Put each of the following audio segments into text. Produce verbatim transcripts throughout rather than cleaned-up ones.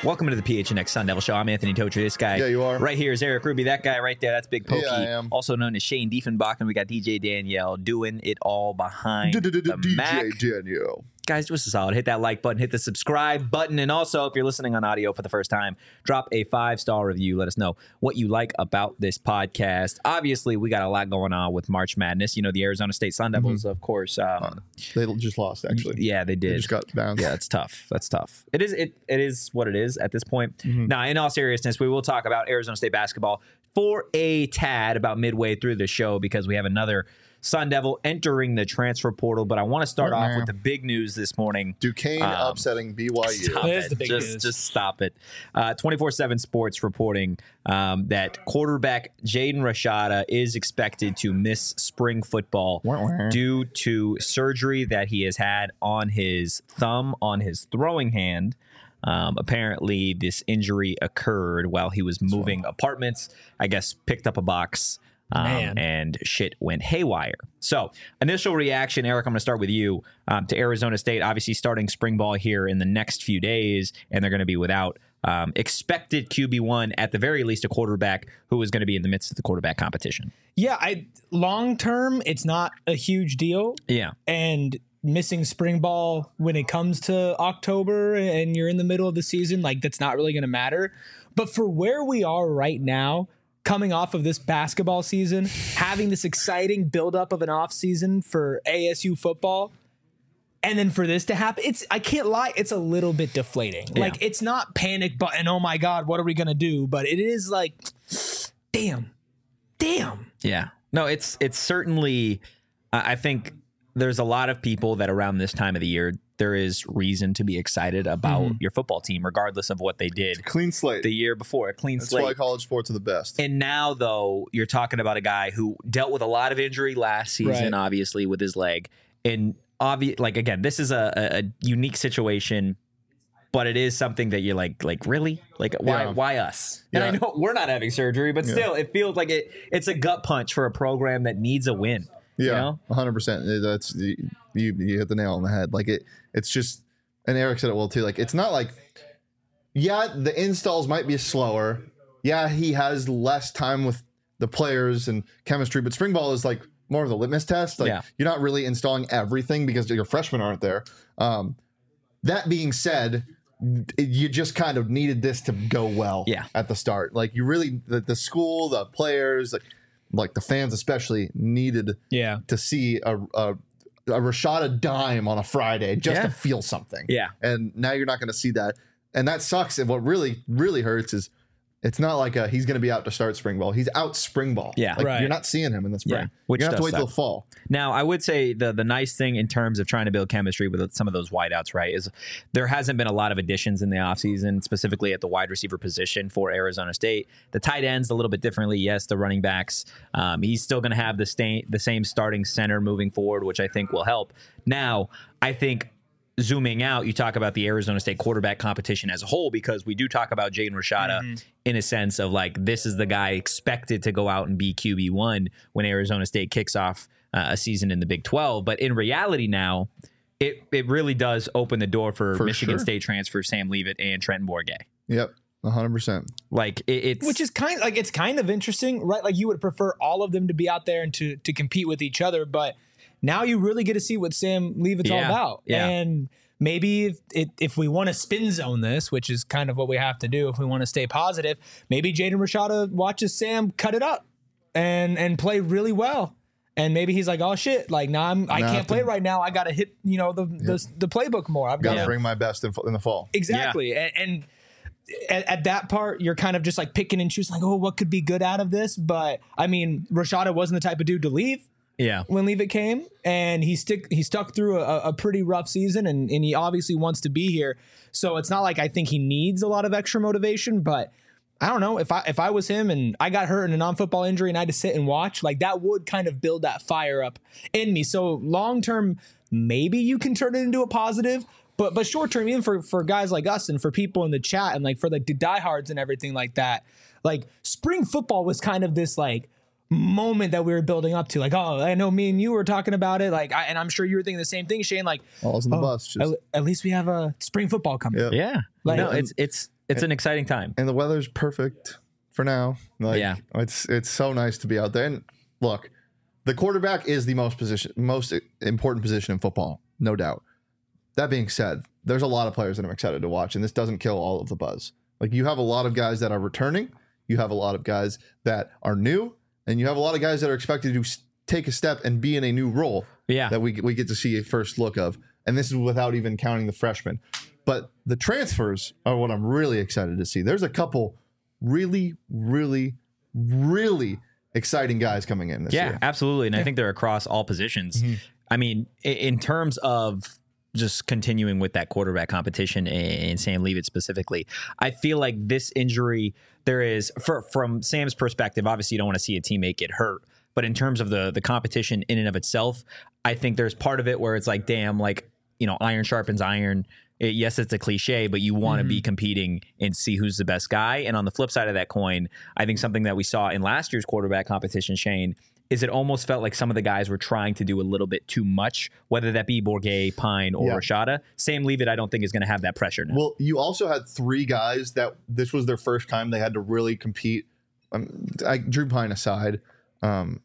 Welcome to the P H N X Sun Devil Show. I'm Anthony Tocher. This guy Yeah, you are. right here is Eric Ruby. That guy right there, that's Big Pokey. Yeah, I am. Also known as Shane Diefenbach. And we got D J Danielle doing it all behind the Mac. D J Danielle. Guys, do us a solid. Hit that like button, hit the subscribe button, and also, if you're listening on audio for the first time, drop a five-star review. Let us know what you like about this podcast. Obviously, we got a lot going on with March Madness. You know, the Arizona State Sun Devils, mm-hmm. of course. Um, uh, they just lost, actually. Yeah, they did. They just got bounced. Yeah, it's tough. That's tough. It is It It is what it is at this point. Mm-hmm. Now, in all seriousness, we will talk about Arizona State basketball for a tad about midway through the show because we have another Sun Devil entering the transfer portal, but I want to start off with the big news this morning. Duquesne um, upsetting B Y U. Stop There's it. the big just, news. Just stop it. Uh, twenty-four seven Sports reporting um, that quarterback Jaden Rashada is expected to miss spring football due to surgery that he has had on his thumb, on his throwing hand. Um, apparently, this injury occurred while he was moving apartments. I guess picked up a box. Um, and shit went haywire. So, initial reaction, Eric, I'm going to start with you um, to Arizona State. Obviously, starting spring ball here in the next few days, and they're going to be without um, expected Q B one, at the very least, a quarterback who is going to be in the midst of the quarterback competition. Yeah, I long term, it's not a huge deal. Yeah. And missing spring ball when it comes to October and you're in the middle of the season, like that's not really going to matter. But for where we are right now, coming off of this basketball season, having this exciting buildup of an off season for A S U football, and then for this to happen, it's I can't lie, it's a little bit deflating. Yeah. Like it's not panic button, oh my God, what are we gonna do? But it is like, damn, damn. Yeah. No, it's it's certainly. I think there's a lot of people that around this time of the year, there is reason to be excited about mm-hmm. your football team, regardless of what they did. It's a clean slate. The year before, a clean That's slate. That's why college sports are the best. And now, though, you're talking about a guy who dealt with a lot of injury last season, right. obviously, with his leg. And, obvi- like, again, this is a, a unique situation, but it is something that you're like, like really? Like, why yeah. why us? And yeah. I know we're not having surgery, but still, yeah. it feels like it. it's a gut punch for a program that needs a win. Yeah, you know? one hundred percent. That's you, you hit the nail on the head. Like it, it's just, and Eric said it well too. Like it's not like, yeah, the installs might be slower. Yeah, he has less time with the players and chemistry, but spring ball is like more of the litmus test. Like yeah. you're not really installing everything because your freshmen aren't there. Um, that being said, you just kind of needed this to go well. Yeah. at the start. Like you really, the, the school, the players, like. Like the fans especially needed yeah. to see a, a, a Rashada dime on a Friday just yeah. to feel something. Yeah. And now you're not going to see that. And that sucks. And what really, really hurts is it's not like a, he's going to be out to start spring ball. He's out spring ball. Yeah. Like right. You're not seeing him in the spring. Yeah. Which you have to wait suck. till the fall. Now, I would say the the nice thing in terms of trying to build chemistry with some of those wideouts, right, is there hasn't been a lot of additions in the offseason, specifically at the wide receiver position for Arizona State. The tight ends a little bit differently. Yes, the running backs. Um, he's still going to have the, sta- the same starting center moving forward, which I think will help. Now, I think zooming out, you talk about the Arizona State quarterback competition as a whole, because we do talk about Jaden Rashada mm-hmm. in a sense of like, this is the guy expected to go out and be Q B one when Arizona State kicks off uh, a season in the Big twelve. But in reality now, it, it really does open the door for, for Michigan sure. State transfer Sam Leavitt and Trenton Bourguet. Yep. one hundred percent. Like it, it's which is kind of like, it's kind of interesting, right? Like you would prefer all of them to be out there and to, to compete with each other, but now you really get to see what Sam Leavitt's yeah, all about. Yeah. And maybe if, it, if we want to spin zone this, which is kind of what we have to do if we want to stay positive, maybe Jaden Rashada watches Sam cut it up and and play really well. And maybe he's like, oh, shit, like, nah, I'm, I can't play right now. I got to hit, you know, the, yep. the the playbook more. I've got to bring my best in, in the fall. Exactly. Yeah. And, and at, at that part, you're kind of just like picking and choosing, like, oh, what could be good out of this? But, I mean, Rashada wasn't the type of dude to leave. Yeah. When Leavitt came, and he stick he stuck through a, a pretty rough season, and, and he obviously wants to be here. So it's not like I think he needs a lot of extra motivation, but I don't know, if I if I was him and I got hurt in a non-football injury and I had to sit and watch, like that would kind of build that fire up in me. So long term, maybe you can turn it into a positive, but but short term, even for for guys like us and for people in the chat and like for like the diehards and everything like that, like spring football was kind of this like moment that we were building up to, like, oh, I know me and you were talking about it, like, I, and I'm sure you were thinking the same thing, Shane. Like, all's in the oh, bus. Just... At, at least we have a spring football coming. Yep. Yeah, like, no, it's it's it's an exciting time. And the weather's perfect for now. Like, Yeah. it's it's so nice to be out there. And look, the quarterback is the most position, most important position in football, no doubt. That being said, there's a lot of players that I'm excited to watch, and this doesn't kill all of the buzz. Like, you have a lot of guys that are returning, you have a lot of guys that are new, and you have a lot of guys that are expected to take a step and be in a new role. Yeah. That we we get to see a first look of, and this is without even counting the freshmen. But the transfers are what I'm really excited to see. There's a couple really, really, really exciting guys coming in this Yeah, year. absolutely. And I think they're across all positions. Mm-hmm. I mean, i- in terms of just continuing with that quarterback competition and Sam Leavitt specifically, I feel like this injury, there is, for, from Sam's perspective, obviously you don't want to see a teammate get hurt. But in terms of the the competition in and of itself, I think there's part of it where it's like, damn, like, you know, iron sharpens iron. It, yes, it's a cliche, but you want to Mm-hmm. be competing and see who's the best guy. And on the flip side of that coin, I think something that we saw in last year's quarterback competition, Shane, is it almost felt like some of the guys were trying to do a little bit too much, whether that be Bourguet, Pine, or Yeah. Rashada. Sam Leavitt, I don't think is going to have that pressure now. Well, you also had three guys that this was their first time they had to really compete. Um, I, Drew Pine aside, um,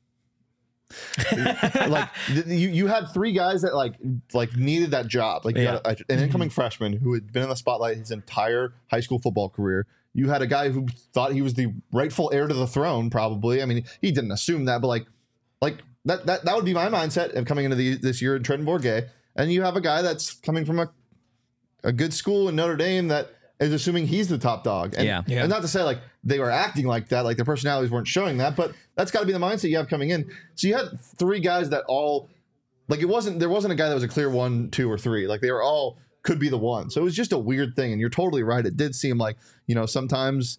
like th- you, you had three guys that like like needed that job. Like you Yeah. had a, an incoming freshman who had been in the spotlight his entire high school football career. You had a guy who thought he was the rightful heir to the throne. Probably, I mean, he didn't assume that, but like, like that that that would be my mindset of coming into the, this year in Trenton Bourguet. And you have a guy that's coming from a a good school in Notre Dame that is assuming he's the top dog. And, Yeah. Yeah. and not to say like they were acting like that, like their personalities weren't showing that, but that's got to be the mindset you have coming in. So you had three guys that all, like it wasn't, there wasn't a guy that was a clear one, two, or three. Like they were all could be the one. So it was just a weird thing. And you're totally right. It did seem like, you know, sometimes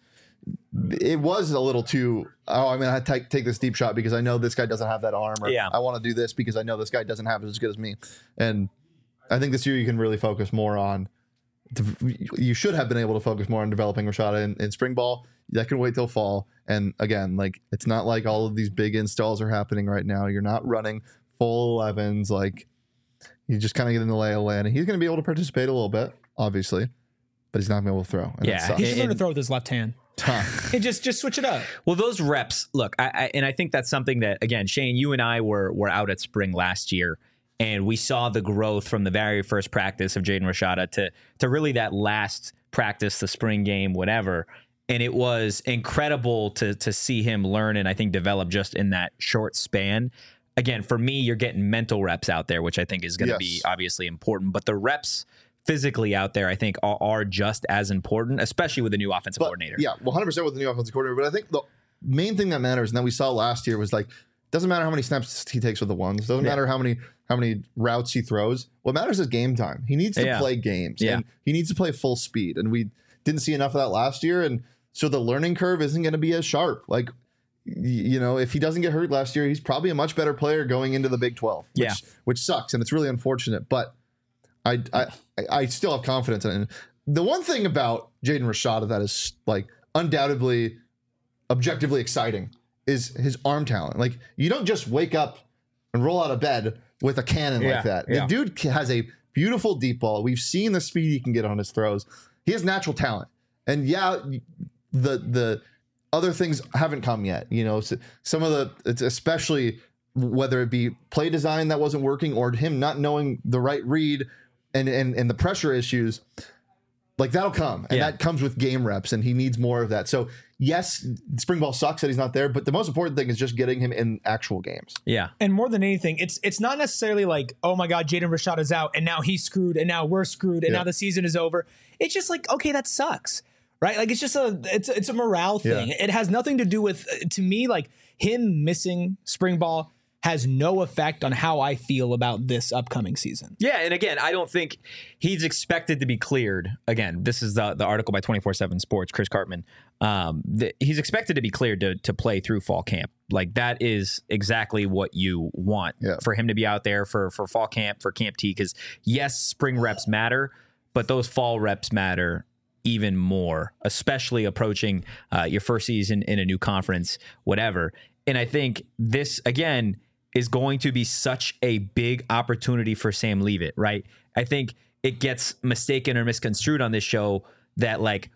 it was a little too, oh, I'm going to take, take this deep shot because I know this guy doesn't have that arm, or Yeah. I want to do this because I know this guy doesn't have it as good as me. And I think this year you can really focus more on, you should have been able to focus more on developing Rashada in, in spring ball. That can wait till fall. And again, like it's not like all of these big installs are happening right now. You're not running full elevens. Like you just kind of get in the lay of land. And he's going to be able to participate a little bit, obviously, but he's not going to be able to throw. And Yeah, that sucks. He should learn to And- throw with his left hand. And just just switch it up. Well, those reps, look, I, I and I think that's something that, again, Shane, you and I were were out at spring last year, and we saw the growth from the very first practice of Jaden Rashada to to really that last practice, the spring game, whatever. And it was incredible to to see him learn and I think develop just in that short span. Again, for me, you're getting mental reps out there, which I think is going to Yes. be obviously important. But the reps physically out there, I think, are, are just as important, especially with the new offensive But, coordinator. Yeah, one hundred percent with the new offensive coordinator. But I think the main thing that matters, and that we saw last year, was like, doesn't matter how many snaps he takes with the ones. Doesn't Yeah. matter how many how many routes he throws. What matters is game time. He needs to Yeah. play games. Yeah. And he needs to play full speed. And we didn't see enough of that last year. And so the learning curve isn't going to be as sharp. Like, y- you know, if he doesn't get hurt last year, he's probably a much better player going into the Big twelve. Which, Yeah. which sucks. And it's really unfortunate. But I I I still have confidence in it. And the one thing about Jaden Rashada that is like undoubtedly objectively exciting is his arm talent. Like you don't just wake up and roll out of bed with a cannon Yeah, like that. yeah. The dude has a beautiful deep ball. We've seen the speed he can get on his throws. He has natural talent. And yeah, the the other things haven't come yet. You know, so some of the it's especially whether it be play design that wasn't working or him not knowing the right read and and, and the pressure issues. Like that'll come, and Yeah. that comes with game reps, and he needs more of that. So yes, spring ball sucks that he's not there, but the most important thing is just getting him in actual games. Yeah. And more than anything, it's it's not necessarily like, oh my God, Jaden Rashad is out and now he's screwed and now we're screwed and Yeah. now the season is over. It's just like, okay, that sucks. Right? Like it's just a it's it's a morale thing. Yeah. It has nothing to do with uh, to me, like him missing spring ball has no effect on how I feel about this upcoming season. Yeah, and again, I don't think he's expected to be cleared. Again, this is the, the article by twenty-four seven Sports, Chris Cartman. Um, the, he's expected to be cleared to, to play through fall camp. Like that is exactly what you want Yeah. for him to be out there for, for fall camp, for Camp T. Because yes, spring reps matter, but those fall reps matter even more, especially approaching uh, your first season in a new conference, whatever. And I think this, again, is going to be such a big opportunity for Sam Leavitt, right? I think it gets mistaken or misconstrued on this show that like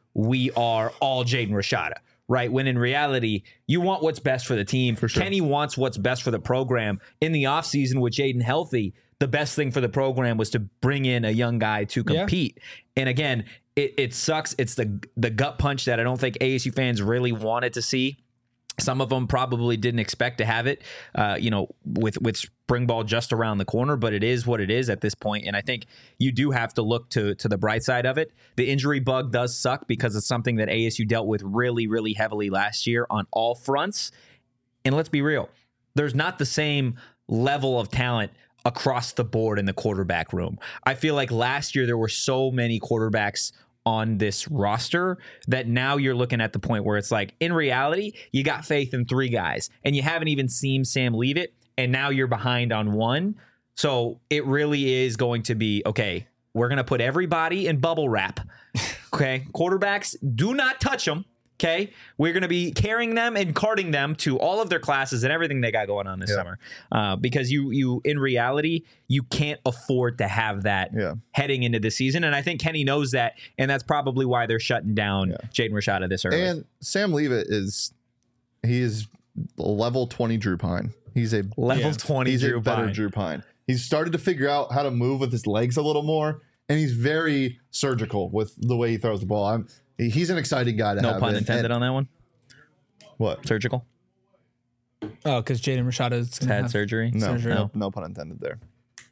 we are all Jaden Rashada, right? When in reality, you want what's best for the team. For sure. Kenny wants what's best for the program. In the offseason with Jaden healthy, the best thing for the program was to bring in a young guy to compete. Yeah. And again, it, it sucks. It's the the gut punch that I don't think A S U fans really wanted to see. Some of them probably didn't expect to have it, uh, you know, with with spring ball just around the corner, but it is what it is at this point. And I think you do have to look to to the bright side of it. The injury bug does suck because it's something that A S U dealt with really, really heavily last year on all fronts. And let's be real, there's not the same level of talent across the board in the quarterback room. I feel like last year there were so many quarterbacks on this roster that now you're looking at the point where it's like, in reality, you got faith in three guys and you haven't even seen Sam leave it. And now you're behind on one. So it really is going to be, okay, we're going to put everybody in bubble wrap. Okay. Quarterbacks, do not touch them. Okay. We're going to be carrying them and carting them to all of their classes and everything they got going on this yeah. summer. Uh, because you, you, in reality, you can't afford to have that yeah. heading into the season. And I think Kenny knows that. And that's probably why they're shutting down yeah. Jaden Rashada this early. And Sam Leavitt is, he is level twenty Drew Pine. He's a level yeah, twenty he's Drew a better Pine. Drew Pine. He's started to figure out how to move with his legs a little more. And he's very surgical with the way he throws the ball. I'm, He's an exciting guy to no have. No pun in. intended and, on that one. What? Surgical? Oh, because Jaden Rashada has had surgery? No, surgery. no, no pun intended there.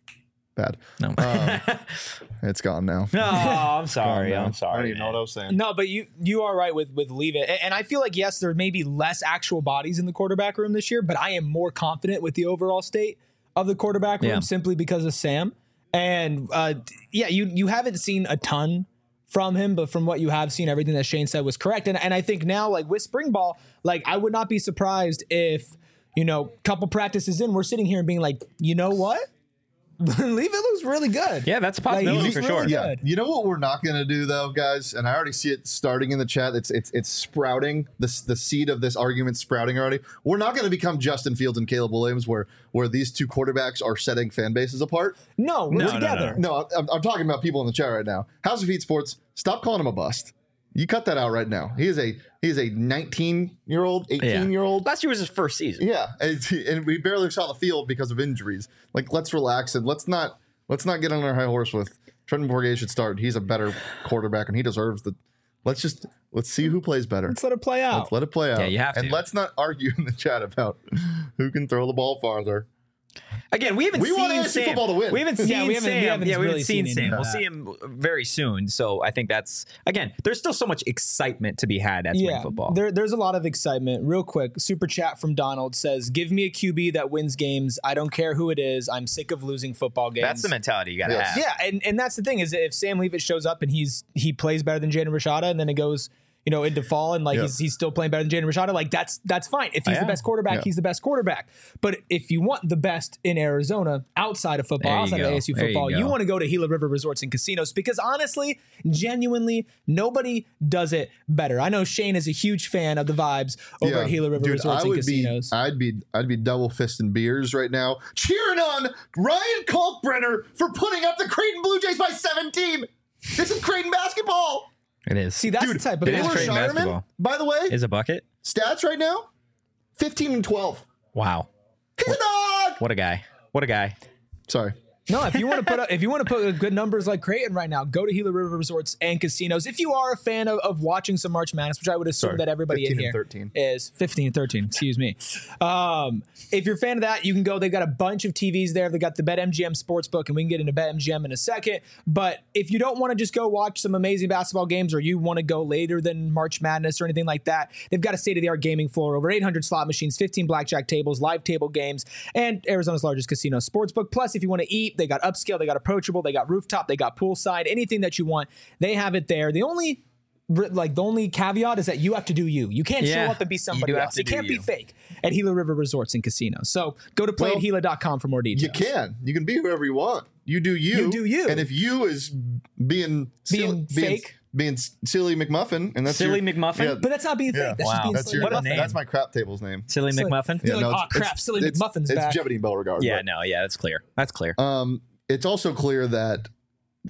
Bad. No. Um, it's gone now. No, I'm sorry. I'm sorry. I don't even know what I was saying. No, but you you are right with with Leave It. And I feel like, yes, there may be less actual bodies in the quarterback room this year, but I am more confident with the overall state of the quarterback room yeah. simply because of Sam. And uh, yeah, you you haven't seen a ton from him, but from what you have seen, everything that Shane said was correct. And and I think now, like with spring ball, like I would not be surprised if, you know, couple practices in, we're sitting here and being like, you know what? Leave It looks really good. Yeah, that's a possibility like, for really sure. Good. Yeah. You know what we're not going to do though, guys? And I already see it starting in the chat. It's it's it's sprouting. This the seed of this argument sprouting already. We're not going to become Justin Fields and Caleb Williams, where where these two quarterbacks are setting fan bases apart. No, we're no, together. No, no. no I'm, I'm talking about people in the chat right now. House of Heat Sports, stop calling him a bust. You cut that out right now. He is a he is a nineteen year old, eighteen year old. Last year was his first season. Yeah, and, and we barely saw the field because of injuries. Like, let's relax and let's not. Let's not get on our high horse with Trenton Bourguet should start. He's a better quarterback, and he deserves the. Let's just let's see who plays better. Let's let it play out. Let's let it play out. Yeah, you have to. And let's not argue in the chat about who can throw the ball farther. Again, we haven't we seen want A S U Sam. football to win. We haven't seen yeah, we haven't, Sam. we haven't yeah, we really haven't seen, seen Sam. any We'll of see him very soon. So I think that's again. There's still so much excitement to be had at spring yeah, football. There, there's a lot of excitement. Real quick, super chat from Donald says, "Give me a Q B that wins games. I don't care who it is. I'm sick of losing football games." That's the mentality you got to Yes. have. Yeah, and, and that's the thing is if Sam Leavitt shows up and he's he plays better than Jaden Rashada, and then it goes, you know, into fall and like Yeah. he's he's still playing better than Jaden Rashada, like that's that's fine. If he's Yeah. the best quarterback, Yeah. he's the best quarterback. But if you want the best in Arizona outside of football, There you outside of go. A S U There you football, you, go. want to go to Gila River Resorts and Casinos because honestly, genuinely, nobody does it better. I know Shane is a huge fan of the vibes over Yeah. at Gila River Dude, Resorts I and would Casinos. Be, I'd be I'd be double fisting beers right now, cheering on Ryan Kalkbrenner for putting up the Creighton Blue Jays by seventeen. This is Creighton basketball. It is. See, that's Dude, the type of it is Taylor Creighton Shireman, basketball. by the way, Is a bucket? stats right now, fifteen and twelve. Wow. He's a dog. What a guy. What a guy. Sorry. No, if you want to put up, if you want to put good numbers like Creighton right now, go to Gila River Resorts and Casinos. If you are a fan of, of watching some March Madness, which I would assume Sorry, that everybody in fifteen here and thirteen. is fifteen and thirteen. Excuse me. Um, if you're a fan of that, you can go. They've got a bunch of T Vs there. They've got the BetMGM Sportsbook, and we can get into BetMGM in a second. But if you don't want to just go watch some amazing basketball games, or you want to go later than March Madness or anything like that, they've got a state-of-the-art gaming floor, over eight hundred slot machines, fifteen blackjack tables, live table games, and Arizona's largest casino sportsbook. Plus, if you want to eat, they got upscale, they got approachable, they got rooftop, they got poolside, anything that you want, they have it there. The only like the only caveat is that you have to do you. You can't Yeah, show up and be you somebody do have else. to You do can't be you. fake at Gila River Resorts and Casinos. So go to play at gila dot com for more details. You can. You can be whoever you want. You do you. You do you. And if you is being Being fake? being, being silly McMuffin, and that's Silly your, McMuffin? Yeah, But that's not being fake. Yeah. That's Wow. just being that's silly. your. What a That's, name. that's my crap table's name. Silly It's like- McMuffin? You're like, no, "Aw, it's- crap, Silly it's- McMuffin's it's back." Jeopardy and Beauregard. Yeah, but- no, yeah, that's clear. That's clear. Um, it's also clear that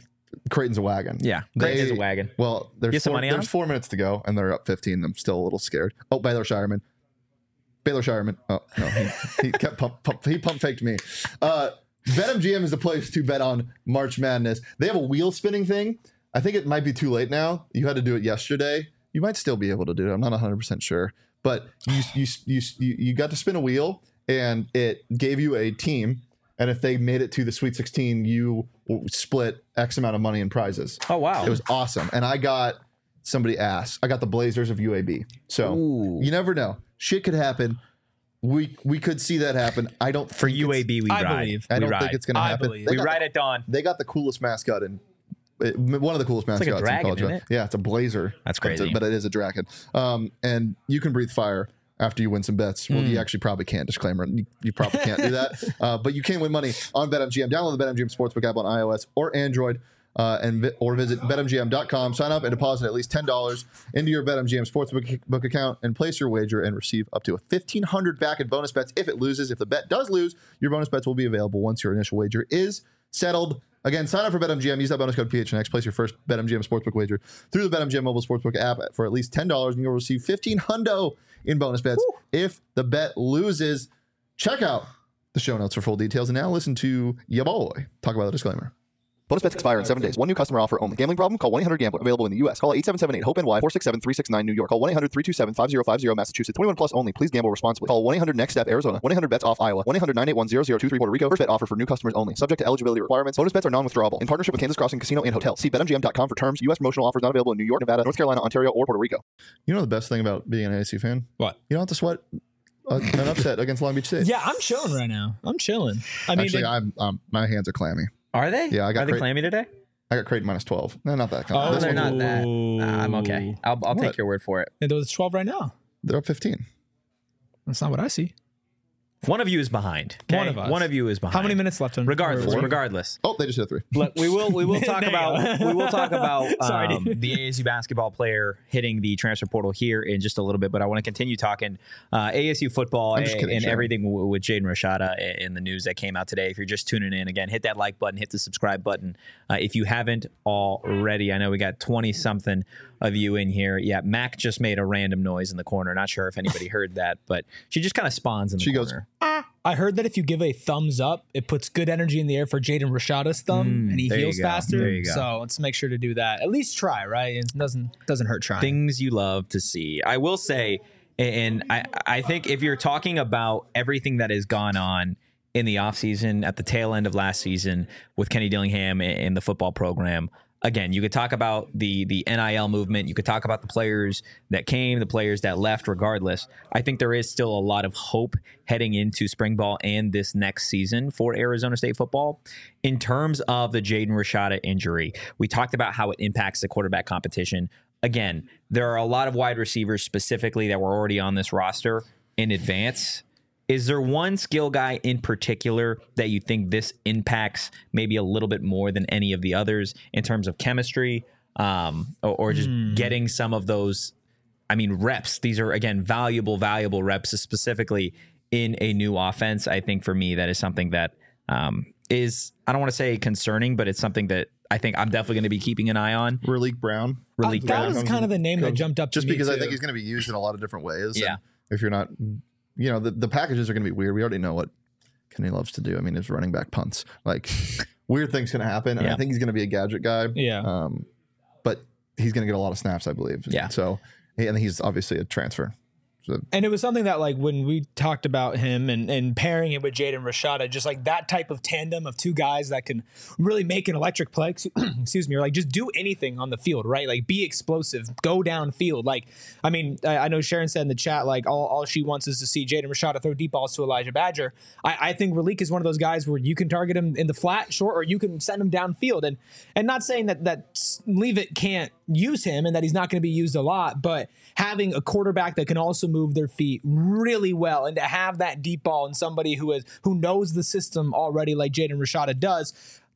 Creighton's a wagon. Yeah, Creighton They- is a wagon. Well, there's Get some four, money on there's them? four minutes to go, and they're up fifteen. I'm still a little scared. Oh, Baylor Shireman. Baylor Shireman. Oh no, he, he kept pump, pump he pump faked me. Uh, BetMGM is the place to bet on March Madness. They have a wheel spinning thing. I think it might be too late now. You had to do it yesterday. You might still be able to do it. I'm not one hundred percent sure, but you you you you, you got to spin a wheel, and it gave you a team. And if they made it to the Sweet sixteen, you split X amount of money in prizes. Oh wow, It was awesome. And I got somebody asked. I got the Blazers of U A B. So Ooh. you never know. Shit could happen. We we could see that happen. I don't for think U A it's- B. We I ride. believe. I we don't ride. think it's going to I happen. believe. They we got ride the, at dawn. They got the coolest mascot in it, one of the coolest like mascots a dragon, in college. isn't it? Yeah, it's a blazer. That's But it's a- crazy. But it is a dragon. Um, and you can breathe fire after you win some bets. Well, Hmm. you actually probably can't. Disclaimer: you, you probably can't do that. Uh, but you can win money on BetMGM. Download the BetMGM Sportsbook app on iOS or Android, uh, and vi- or visit bet M G M dot com. Sign up and deposit at least ten dollars into your BetMGM Sportsbook book account and place your wager and receive up to a fifteen hundred dollars back in bonus bets if it loses. If the bet does lose, your bonus bets will be available once your initial wager is settled. Again, sign up for BetMGM. Use that bonus code P H N X. Place your first BetMGM Sportsbook wager through the BetMGM mobile sportsbook app for at least ten dollars, and you'll receive fifteen hundo in bonus bets if the bet loses. Check out the show notes for full details. And now listen to ya boy talk about the disclaimer. Bonus bets expire in seven days. One new customer offer only. Gambling problem? Call one eight hundred gambler. Available in the U S. Call eight seven seven eight hope N Y four six seven three six nine New York. Call one eight hundred three two seven five zero five zero Massachusetts. twenty-one plus only. Please gamble responsibly. Call one eight hundred next step Arizona. one eight hundred bets off Iowa. one eight hundred nine eight one zero zero two three Puerto Rico. First bet offer for new customers only. Subject to eligibility requirements. Bonus bets are non-withdrawable. In partnership with Kansas Crossing Casino and Hotel. See bet M G M dot com for terms. U S promotional offers not available in New York, Nevada, North Carolina, Ontario, or Puerto Rico. You know the best thing about being an A S U fan? What? You don't have to sweat a, an upset against Long Beach State. Yeah, I'm chilling right now. I'm chilling. I mean, Actually, it- I'm um, my hands are clammy. Are they? Yeah, I got Are they great- clammy today? I got Creighton minus twelve. No, not that. Oh, this they're one's- not that. Nah, I'm okay. I'll, I'll What? take your word for it. and there's twelve right now. They're up fifteen. That's not what I see. One of you is behind. okay? One of us. One of you is behind. How many minutes left? On Regardless, or- regardless. Oh, they just hit a three. Look, we will we will talk There you about go. we will talk about Sorry, um, dude. the A S U basketball player hitting the transfer portal here in just a little bit, but I want to continue talking uh, A S U football I'm and, just kidding, and Sharon. everything w- with Jaden Rashada in the news that came out today. If you're just tuning in, again, hit that like button, hit the subscribe button uh, if you haven't already. I know we got twenty something of you in here. Yeah, Mac just made a random noise in the corner. Not sure if anybody heard that, but she just kind of spawns in the She goes, corner. I heard that if you give a thumbs up, it puts good energy in the air for Jaden Rashada's thumb, Mm, and he there you heals go. faster. There you go. So let's make sure to do that. At least try, right? It doesn't doesn't hurt trying. Things you love to see. I will say, and I, I think if you're talking about everything that has gone on in the offseason at the tail end of last season with Kenny Dillingham and the football program, again, you could talk about the the N I L movement. You could talk about the players that came, the players that left, regardless. I think there is still a lot of hope heading into spring ball and this next season for Arizona State football. In terms of the Jaden Rashada injury, we talked about how it impacts the quarterback competition. Again, there are a lot of wide receivers specifically that were already on this roster in advance. Is there one skill guy in particular that you think this impacts maybe a little bit more than any of the others in terms of chemistry, um, or, or just Hmm. getting some of those, I mean, reps? These are, again, valuable, valuable reps, specifically in a new offense. I think for me, that is something that um, is, I don't want to say concerning, but it's something that I think I'm definitely going to be keeping an eye on. Raleek Brown. Uh, Raleek that Brown was comes kind in- of the name that comes- jumped up to Just me, because I too. think he's going to be used in a lot of different ways. Yeah. And if you're not, you know, the, the packages are going to be weird. We already know what Kenny loves to do. I mean, his running back punts. Like, weird things going to happen. And Yeah. I think he's going to be a gadget guy. Yeah. Um, but he's going to get a lot of snaps, I believe. Yeah. So, and he's obviously a transfer. So, And it was something that, like, when we talked about him and, and pairing it with Jaden Rashada, just like that type of tandem of two guys that can really make an electric play, excuse me, or like just do anything on the field, right? Like be explosive, go downfield. Like, I mean, I, I know Sharon said in the chat, like, all, all she wants is to see Jaden Rashada throw deep balls to Elijah Badger. I, I think Raleek is one of those guys where you can target him in the flat, short, or you can send him downfield. And and not saying that, that Leave It can't use him and that he's not going to be used a lot, but having a quarterback that can also move their feet really well and to have that deep ball and somebody who is who knows the system already like Jaden Rashada does,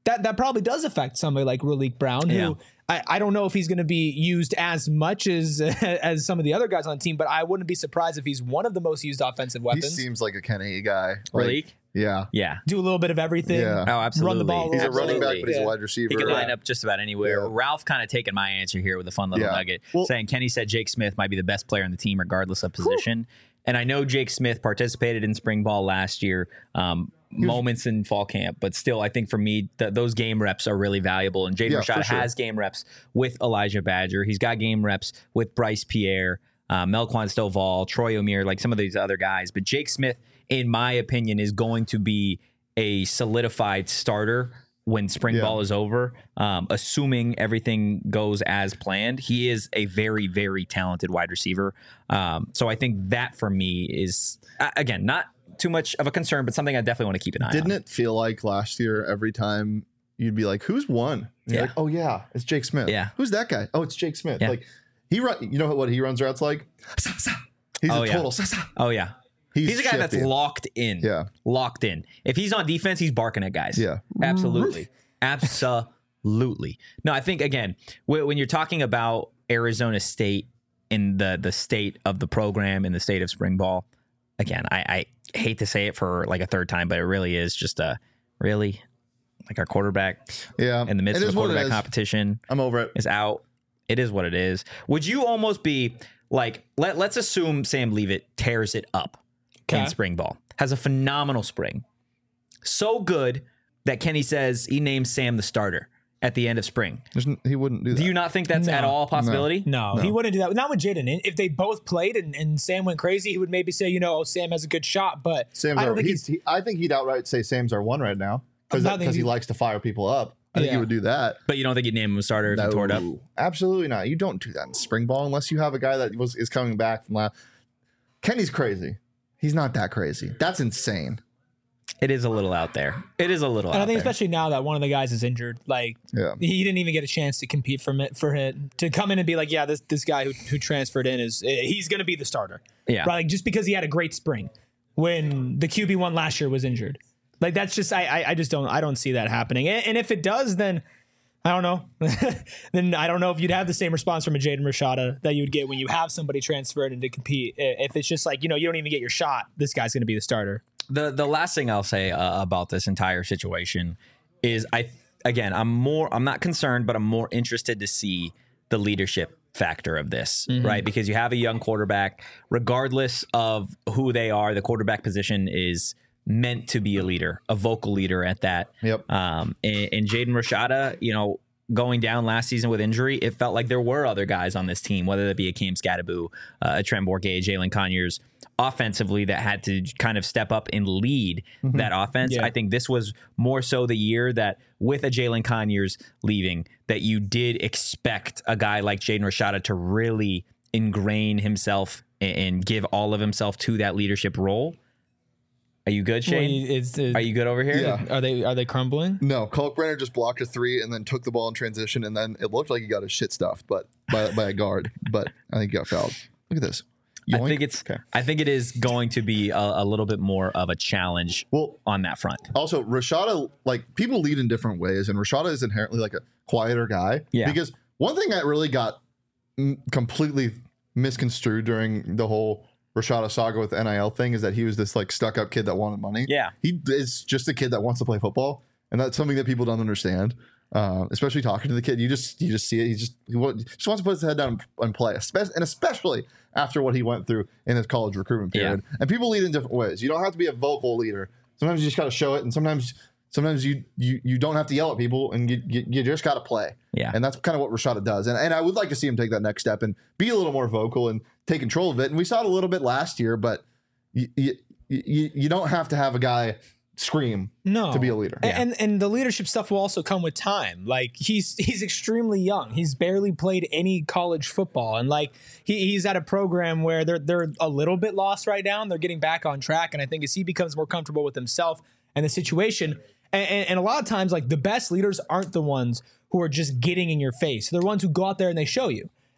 that that probably does affect somebody like Raleek Brown, who Yeah. I, I don't know if he's going to be used as much as as some of the other guys on the team, but I wouldn't be surprised if he's one of the most used offensive He weapons. seems like a Kenny guy. Like, Raleek? yeah. Yeah. Do a little bit of everything. Yeah. Oh, absolutely. Run the ball. He's a Absolutely. running back, but he's Yeah. a wide receiver. He can line Yeah. up just about anywhere. Yeah. Ralph kind of taking my answer here with a fun little Yeah. nugget, Well- saying Kenny said Jake Smith might be the best player on the team regardless of position. And I know Jake Smith participated in spring ball last year, um, moments in fall camp, but still, I think for me, th- those game reps are really valuable. And Jaden Yeah, Rashada for sure. has game reps with Elijah Badger. He's got game reps with Bryce Pierre, uh, Melquan Stovall, Troy O'Meara, like some of these other guys. But Jake Smith, in my opinion, is going to be a solidified starter when spring Yeah. ball is over, um, assuming everything goes as planned. He is a very, very talented wide receiver. Um, so I think that for me is, uh, again, not too much of a concern, but something I definitely want to keep an eye Didn't on. it feel like last year every time you'd be like, "Who's won?" And you're Yeah. like, "Oh yeah, it's Jake Smith." Yeah. Who's that guy? Oh, it's Jake Smith. Yeah. Like he run. You know what he runs routes like? Sa, sa. He's Oh, a yeah. total. Sa, sa. Oh, yeah. He's, He's a guy that's shifty. locked in. Yeah. Locked in. If he's on defense, he's barking at guys. Yeah. Absolutely. Absolutely. No, I think, again, wh- when you're talking about Arizona State in the, the state of the program, in the state of spring ball, again, I, I hate to say it for like a third time, but it really is just a really like our quarterback Yeah. in the midst It of is the what it quarterback is. competition I'm over it. is out. It is what it is. Would you almost be like, let, let's assume Sam Leavitt tears it up Okay. in spring ball, has a phenomenal spring. So good that Kenny says he names Sam the starter at the end of spring. There's n- he wouldn't do that. Do you not think that's No. at all a possibility? No, No. he wouldn't do that. Not with Jaden. If they both played and, and Sam went crazy, he would maybe say, you know, oh, Sam has a good shot, but Sam's I our, don't think he's, he's. he, I think he'd outright say Sam's our one right now because I think because he he- likes to fire people up. I think Yeah. he would do that. But you don't think you'd name him a starter if he tore it up? No, absolutely not. You don't do that in spring ball unless you have a guy that was is coming back from last. Kenny's crazy. He's not that crazy. That's insane. It is a little out there. It is a little And out I think there. especially now that one of the guys is injured, like Yeah. he didn't even get a chance to compete for it for him to come in and be like, yeah, this this guy who, who transferred in is he's going to be the starter. Yeah. Right? Like just because he had a great spring when the Q B one last year was injured. Like that's just I I, I just don't I don't see that happening. And, and if it does, then I don't know. Then I don't know if you'd have the same response from a Jaden Rashada that you would get when you have somebody transferred in to compete. If it's just like, you know, you don't even get your shot, this guy's going to be the starter. The the last thing I'll say uh, about this entire situation is I again I'm more I'm not concerned, but I'm more interested to see the leadership factor of this, right? Because you have a young quarterback, regardless of who they are, the quarterback position is meant to be a leader, a vocal leader at that. Yep. Um, and, and Jaden Rashada, you know, going down last season with injury, it felt like there were other guys on this team, whether that be a Cam Scattaboo, uh, a Trent Bourget, Jalen Conyers, offensively that had to kind of step up and lead that offense. Yeah. I think this was more so the year that with a Jalen Conyers leaving, that you did expect a guy like Jaden Rashada to really ingrain himself and, and give all of himself to that leadership role. Are you good, Shane? Well, it's, it's, Are you good over here? Yeah. Are they are they crumbling? No, Kalkbrenner just blocked a three and then took the ball in transition, and then it looked like he got his shit stuffed, but by, by a guard. But I think he got fouled. Look at this. I Yoink. think it's. Okay. I think it is going to be a, a little bit more of a challenge Well, on that front. also Rashada, like people lead in different ways, and Rashada is inherently like a quieter guy. Yeah. Because one thing that really got mm, completely misconstrued during the whole Rashada saga with the N I L thing is that he was this like stuck up kid that wanted money. Yeah. He is just a kid that wants to play football, and that's something that people don't understand. Uh, especially talking to the kid, you just you just see it. He just he wa- just wants to put his head down and play, especially and especially after what he went through in his college recruitment period. And people lead in different ways. You don't have to be a vocal leader. Sometimes you just got to show it, and sometimes sometimes you you you don't have to yell at people, and you you, you just got to play. Yeah. And that's kind of what Rashada does. And and I would like to see him take that next step and be a little more vocal and take control of it. And we saw it a little bit last year, but you you you, you don't have to have a guy scream No, to be a leader. A- And and the leadership stuff will also come with time. Like he's he's extremely young. He's barely played any college football, and like he, he's at a program where they're they're a little bit lost right now, and they're getting back on track. And I think as he becomes more comfortable with himself and the situation, and, and, and a lot of times like the best leaders aren't the ones who are just getting in your face. They're the ones who go out there and they show you.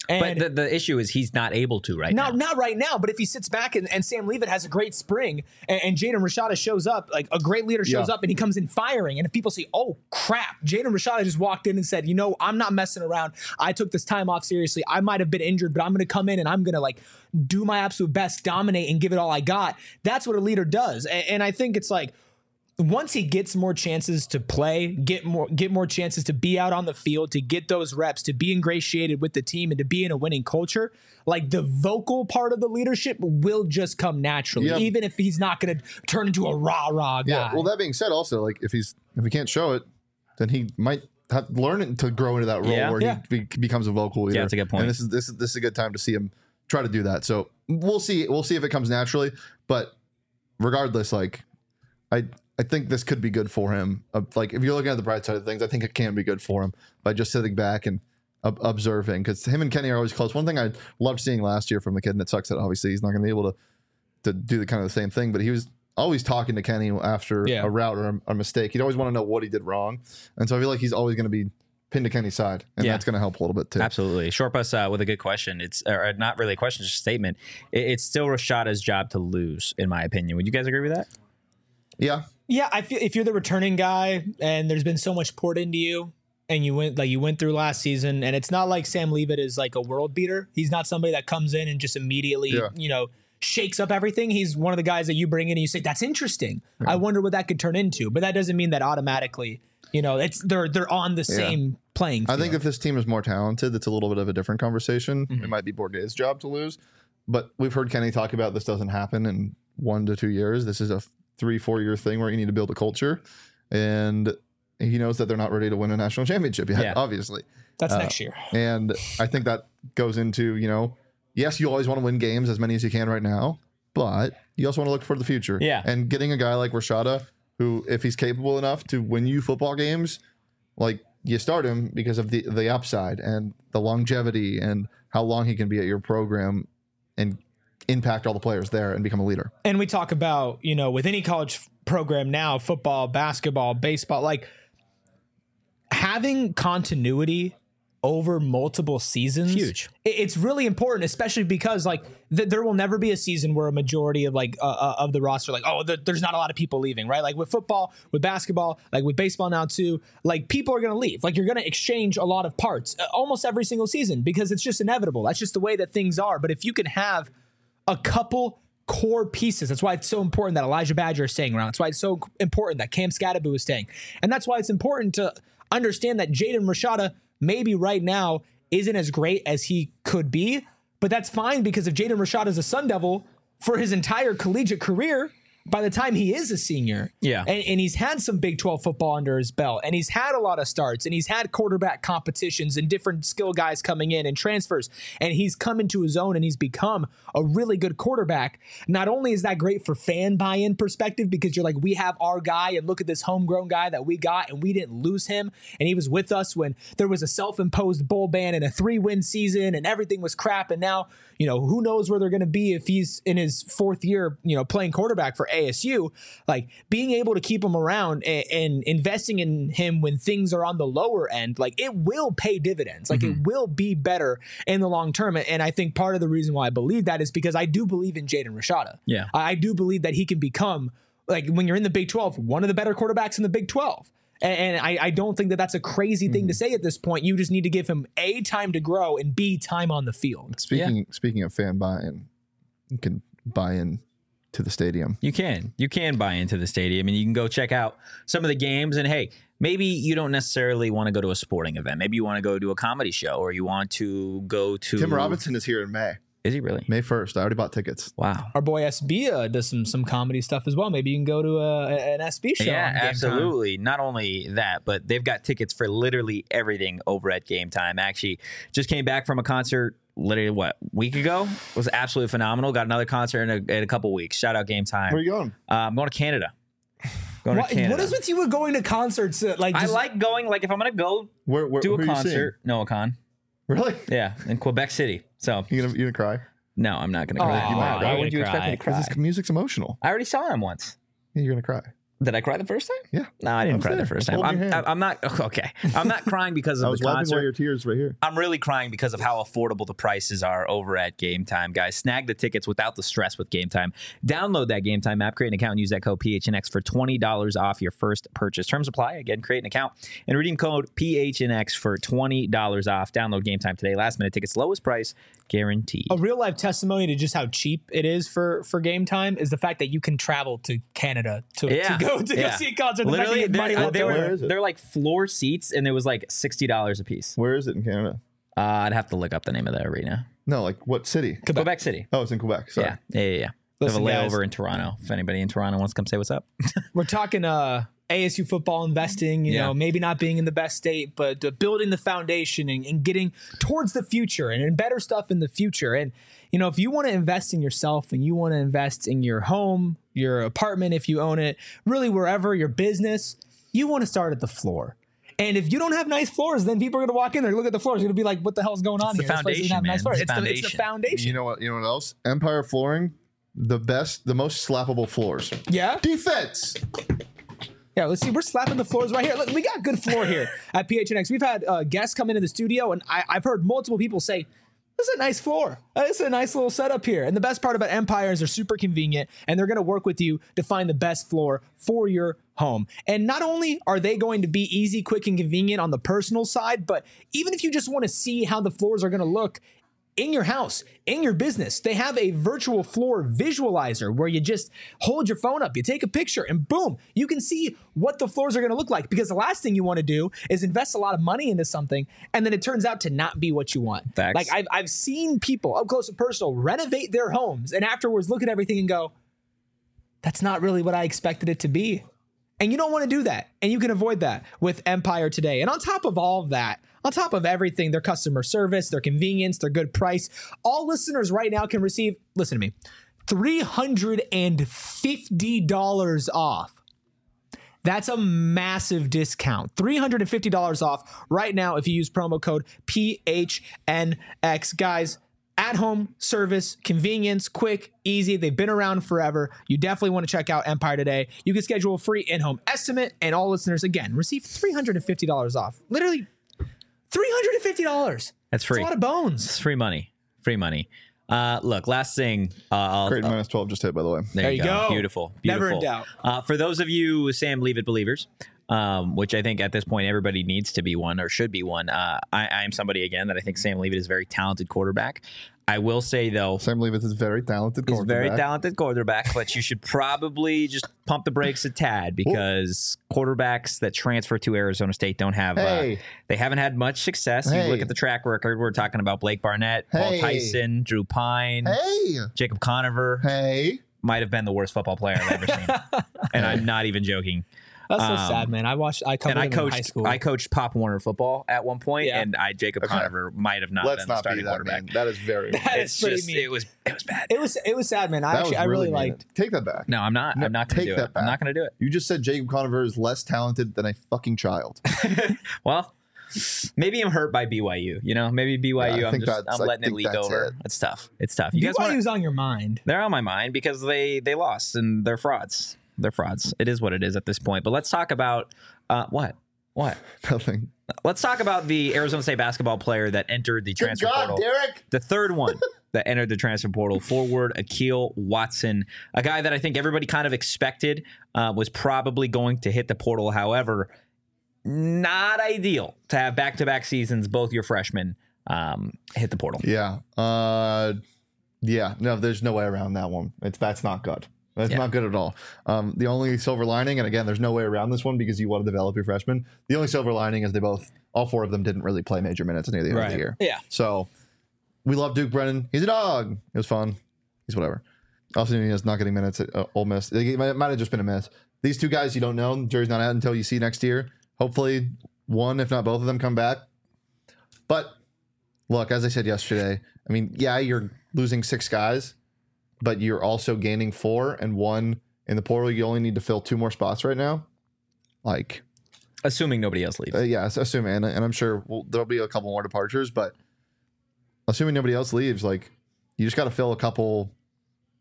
And But the, the issue is he's not able to right Not, now. not right now, but if he sits back and, and Sam Leavitt has a great spring and, and Jaden Rashada shows up, like a great leader shows Yeah. up and he comes in firing, and if people say, oh, crap, Jaden Rashada just walked in and said, you know, I'm not messing around. I took this time off seriously. I might have been injured, but I'm going to come in and I'm going to like do my absolute best, dominate, and give it all I got. That's what a leader does. And, and I think it's like, once he gets more chances to play, get more get more chances to be out on the field, to get those reps, to be ingratiated with the team, and to be in a winning culture, like the vocal part of the leadership will just come naturally, Yeah. even if he's not going to turn into a rah rah guy. Yeah. Well, that being said, also like if he's if he can't show it, then he might have learn it to grow into that role Yeah. where Yeah. he be, becomes a vocal leader. Yeah, that's a good point. And this is this is this is a good time to see him try to do that. So we'll see. We'll see if it comes naturally. But regardless, like I. I think this could be good for him. Uh, like if you're looking at the bright side of things, I think it can be good for him by just sitting back and ob- observing. Because him and Kenny are always close. One thing I loved seeing last year from the kid, and it sucks that obviously he's not going to be able to to do the kind of the same thing. But he was always talking to Kenny after Yeah. a route or a, a mistake. He'd always want to know what he did wrong, and so I feel like he's always going to be pinned to Kenny's side, and Yeah. that's going to help a little bit too. Absolutely. Short bus uh, with a good question. It's or not really a question, just a statement. It, it's still Rashada's job to lose, in my opinion. Would you guys agree with that? Yeah, Yeah, I feel if you're the returning guy and there's been so much poured into you and you went like you went through last season, and it's not like Sam Leavitt is like a world beater. He's not somebody that comes in and just immediately, Yeah. you know, shakes up everything. He's one of the guys that you bring in and you say, that's interesting. I wonder what that could turn into. But that doesn't mean that automatically, you know, it's they're they're on the same playing field. I think if this team is more talented, it's a little bit of a different conversation. It might be Bourguet's job to lose, but we've heard Kenny talk about this doesn't happen in one to two years. This is a three, four year thing where you need to build a culture, and he knows that they're not ready to win a national championship yet, Yeah. obviously. that's uh, next year. And I think that goes into, you know, yes, you always want to win games, as many as you can right now, but you also want to look for the future. Yeah. And getting a guy like Rashada, who, if he's capable enough to win you football games, like you start him because of the, the upside and the longevity and how long he can be at your program and impact all the players there and become a leader. And we talk about, you know, with any college f- program now, football, basketball, baseball, like having continuity over multiple seasons. Huge. i- It's really important, especially because like th- there will never be a season where a majority of like uh, uh, of the roster, like, oh, th- there's not a lot of people leaving, right? Like with football, with basketball, like with baseball now too, like people are going to leave. Like you're going to exchange a lot of parts uh, almost every single season because it's just inevitable. That's just the way that things are. But if you can have a couple core pieces. That's why it's so important that Elijah Badger is staying around. That's why it's so important that Cam Scadaboo is staying. And that's why it's important to understand that Jaden Rashada maybe right now isn't as great as he could be, but that's fine because if Jaden Rashada is a Sun Devil for his entire collegiate career, by the time he is a senior, Yeah. and, and he's had some Big twelve football under his belt, and he's had a lot of starts, and he's had quarterback competitions and different skill guys coming in and transfers, and he's come into his own and he's become a really good quarterback. Not only is that great for fan buy-in perspective because you're like, we have our guy, and look at this homegrown guy that we got, and we didn't lose him, and he was with us when there was a self-imposed bowl ban and a three-win season, and everything was crap, and now, you know, who knows where they're going to be if he's in his fourth year, you know, playing quarterback for A S U. Like being able to keep him around and, and investing in him when things are on the lower end, like it will pay dividends. Like it will be better in the long term. And I think part of the reason why I believe that is because I do believe in Jaden Rashada. Yeah. I I do believe that he can become, like when you're in the Big twelve, one of the better quarterbacks in the Big twelve. And I, I don't think that that's a crazy thing to say at this point. You just need to give him A, time to grow, and B, time on the field. Speaking speaking of fan buy-in, you can buy in to the stadium. You can. You can buy into the stadium and you can go check out some of the games. And hey, maybe you don't necessarily want to go to a sporting event. Maybe you want to go to a comedy show or you want to go to. Tim Robinson is here in May. Is he really? May first. I already bought tickets. Wow. Our boy S B uh, does some some comedy stuff as well. Maybe you can go to a, an S B show. Yeah, on Game Time. absolutely. Not only that, but they've got tickets for literally everything over at Game Time. Actually, just came back from a concert literally, what, week ago? It was absolutely phenomenal. Got another concert in a, in a couple weeks. Shout out Game Time. Where are you going? Uh, I'm going to Canada. Going What, to Canada. what is with you with going to concerts? uh, Like I just, like going, like if I'm going to go Where, where do who a are you seeing? concert, Noah Con. Really? Yeah, in Quebec City. So, You gonna you gonna cry? no, I'm not going to Aw, cry. you might Why cry. would you expect me to cry? Because his music's emotional. I already saw him once. Yeah, you're gonna cry. Did I cry the first time? Yeah. No, I didn't I was cry there. the first I was time. holding I'm, your hand. I'm not okay. I'm not crying because I of was the wiping concert. away your tears right here. I'm really crying because of how affordable the prices are over at Game Time, guys. Snag the tickets without the stress with Game Time. Download that Game Time app, create an account, and use that code P H N X for twenty dollars off your first purchase. Terms apply. Again, create an account and redeem code P H N X for twenty dollars off. Download Game Time today. Last minute tickets, lowest price guaranteed. A real life testimony to just how cheap it is for for Game Time is the fact that you can travel to Canada to, Yeah, to go to yeah. go see a concert. The Literally, fact that you have money they're, left they over. Where were, is it? they're like floor seats, and it was like sixty dollars a piece. Where is it in Canada? Uh, I'd have to look up the name of the arena. No, like what city? Quebec, City. Oh, it's in Quebec. Sorry. Yeah, yeah, yeah. yeah. They have a Listen, guys. layover in Toronto. If anybody in Toronto wants to come say what's up. We're talking uh, A S U football investing, you Yeah. know, maybe not being in the best state, but uh, building the foundation and, and getting towards the future and in better stuff in the future. And, you know, if you want to invest in yourself and you want to invest in your home, your apartment, if you own it, really wherever, your business, you want to start at the floor. And if you don't have nice floors, then people are going to walk in there, look at the floors, they're going to be like, what the hell's going on It's the here? This place doesn't foundation, have nice man. floors. It's It's, the the, it's the foundation. foundation. You know what? You know what else? Empire Flooring, the best, the most slappable floors. Yeah? Defense. Yeah, let's see. We're slapping the floors right here. Look, we got good floor here at P H N X. We've had uh, guests come into the studio, and I, I've heard multiple people say, this is a nice floor. Uh, This is a nice little setup here. And the best part about Empire is they're super convenient, and they're going to work with you to find the best floor for your home. And not only are they going to be easy, quick, and convenient on the personal side, but even if you just want to see how the floors are going to look in your house, in your business, they have a virtual floor visualizer where you just hold your phone up, you take a picture, and boom, you can see what the floors are going to look like. Because the last thing you want to do is invest a lot of money into something and then it turns out to not be what you want. Facts. Like I've, I've seen people up close and personal renovate their homes and afterwards look at everything and go, that's not really what I expected it to be. And you don't want to do that. And you can avoid that with Empire today. And on top of all of that, on top of everything, their customer service, their convenience, their good price, all listeners right now can receive, listen to me, three hundred fifty dollars off. That's a massive discount. three hundred fifty dollars off right now if you use promo code P H N X. Guys, at home service, convenience, quick, easy. They've been around forever. You definitely want to check out Empire today. You can schedule a free in-home estimate, and all listeners, again, receive three hundred fifty dollars off. Literally, three hundred fifty dollars. That's free. That's a lot of bones. It's free money. Free money. Uh, look, last thing. Uh, I'll, Creighton uh, minus twelve just hit, by the way. there, There you you go. go. Beautiful. Never in Beautiful. doubt. Uh, for those of you Sam Leave It believers, um, which I think at this point everybody needs to be one or should be one. Uh, I, I am somebody again that I think Sam Leave It is a very talented quarterback. I will say though, Sam Leavis is very talented. he's a very quarterback. talented quarterback, but you should probably just pump the brakes a tad because quarterbacks that transfer to Arizona State don't have, Hey. uh, they haven't had much success. You Hey. look at the track record. We're talking about Blake Barnett, Paul Hey. Tyson, Drew Pine, Hey, Jacob Conover. hey. Might have been the worst football player I've ever seen, and I'm not even joking. That's so Um, sad, man. I watched, I covered And I him in high coached, school. I coached Pop Warner football at one point, Yeah. and I Jacob Okay. Conover might have not Let's been the not be starting that quarterback. mean. That is very. That It's is pretty just mean. it was it was bad. It was, it was sad, man. I that actually, was I really mean. liked. Take that back. No, I'm not. No, I'm not going take to do that it. I'm back. not going to do it. You just said Jacob Conover is less talented than a fucking child. Well, maybe I'm hurt by B Y U. You know, maybe B Y U. Yeah, I I'm think just that's- I'm I letting it think leak that's over. it. It's tough. It's tough. You guys want? BYU's on your mind. They're on my mind because they they lost and they're frauds. They're frauds. It is what it is at this point. But let's talk about uh, what what. Nothing. Let's talk about the Arizona State basketball player that entered the Good transfer God, portal. Derek. The third one that entered the transfer portal, forward Akil Watson, a guy that I think everybody kind of expected uh, was probably going to hit the portal. However, not ideal to have back-to-back seasons, both your freshmen um, hit the portal. Yeah. Uh, yeah. No, there's no way around that one. It's that's not good. That's Yeah. not good at all. Um, the only silver lining, and again, there's no way around this one because you want to develop your freshmen. The only silver lining is they both, all four of them, didn't really play major minutes near the end of the year. Yeah. So we love Duke Brennan. He's a dog. It was fun. He's whatever. Also, he is not getting minutes at uh, Ole Miss. It might, it might have just been a miss. These two guys, you don't know. The jury's not out until you see next year. Hopefully, one, if not both of them, come back. But look, as I said yesterday, I mean, yeah, you're losing six guys, but you're also gaining four and one in the portal. You only need to fill two more spots right now. Like, Assuming nobody else leaves. uh, yeah, assuming, and, and I'm sure we'll, there'll be a couple more departures, but assuming nobody else leaves, like, you just got to fill a couple,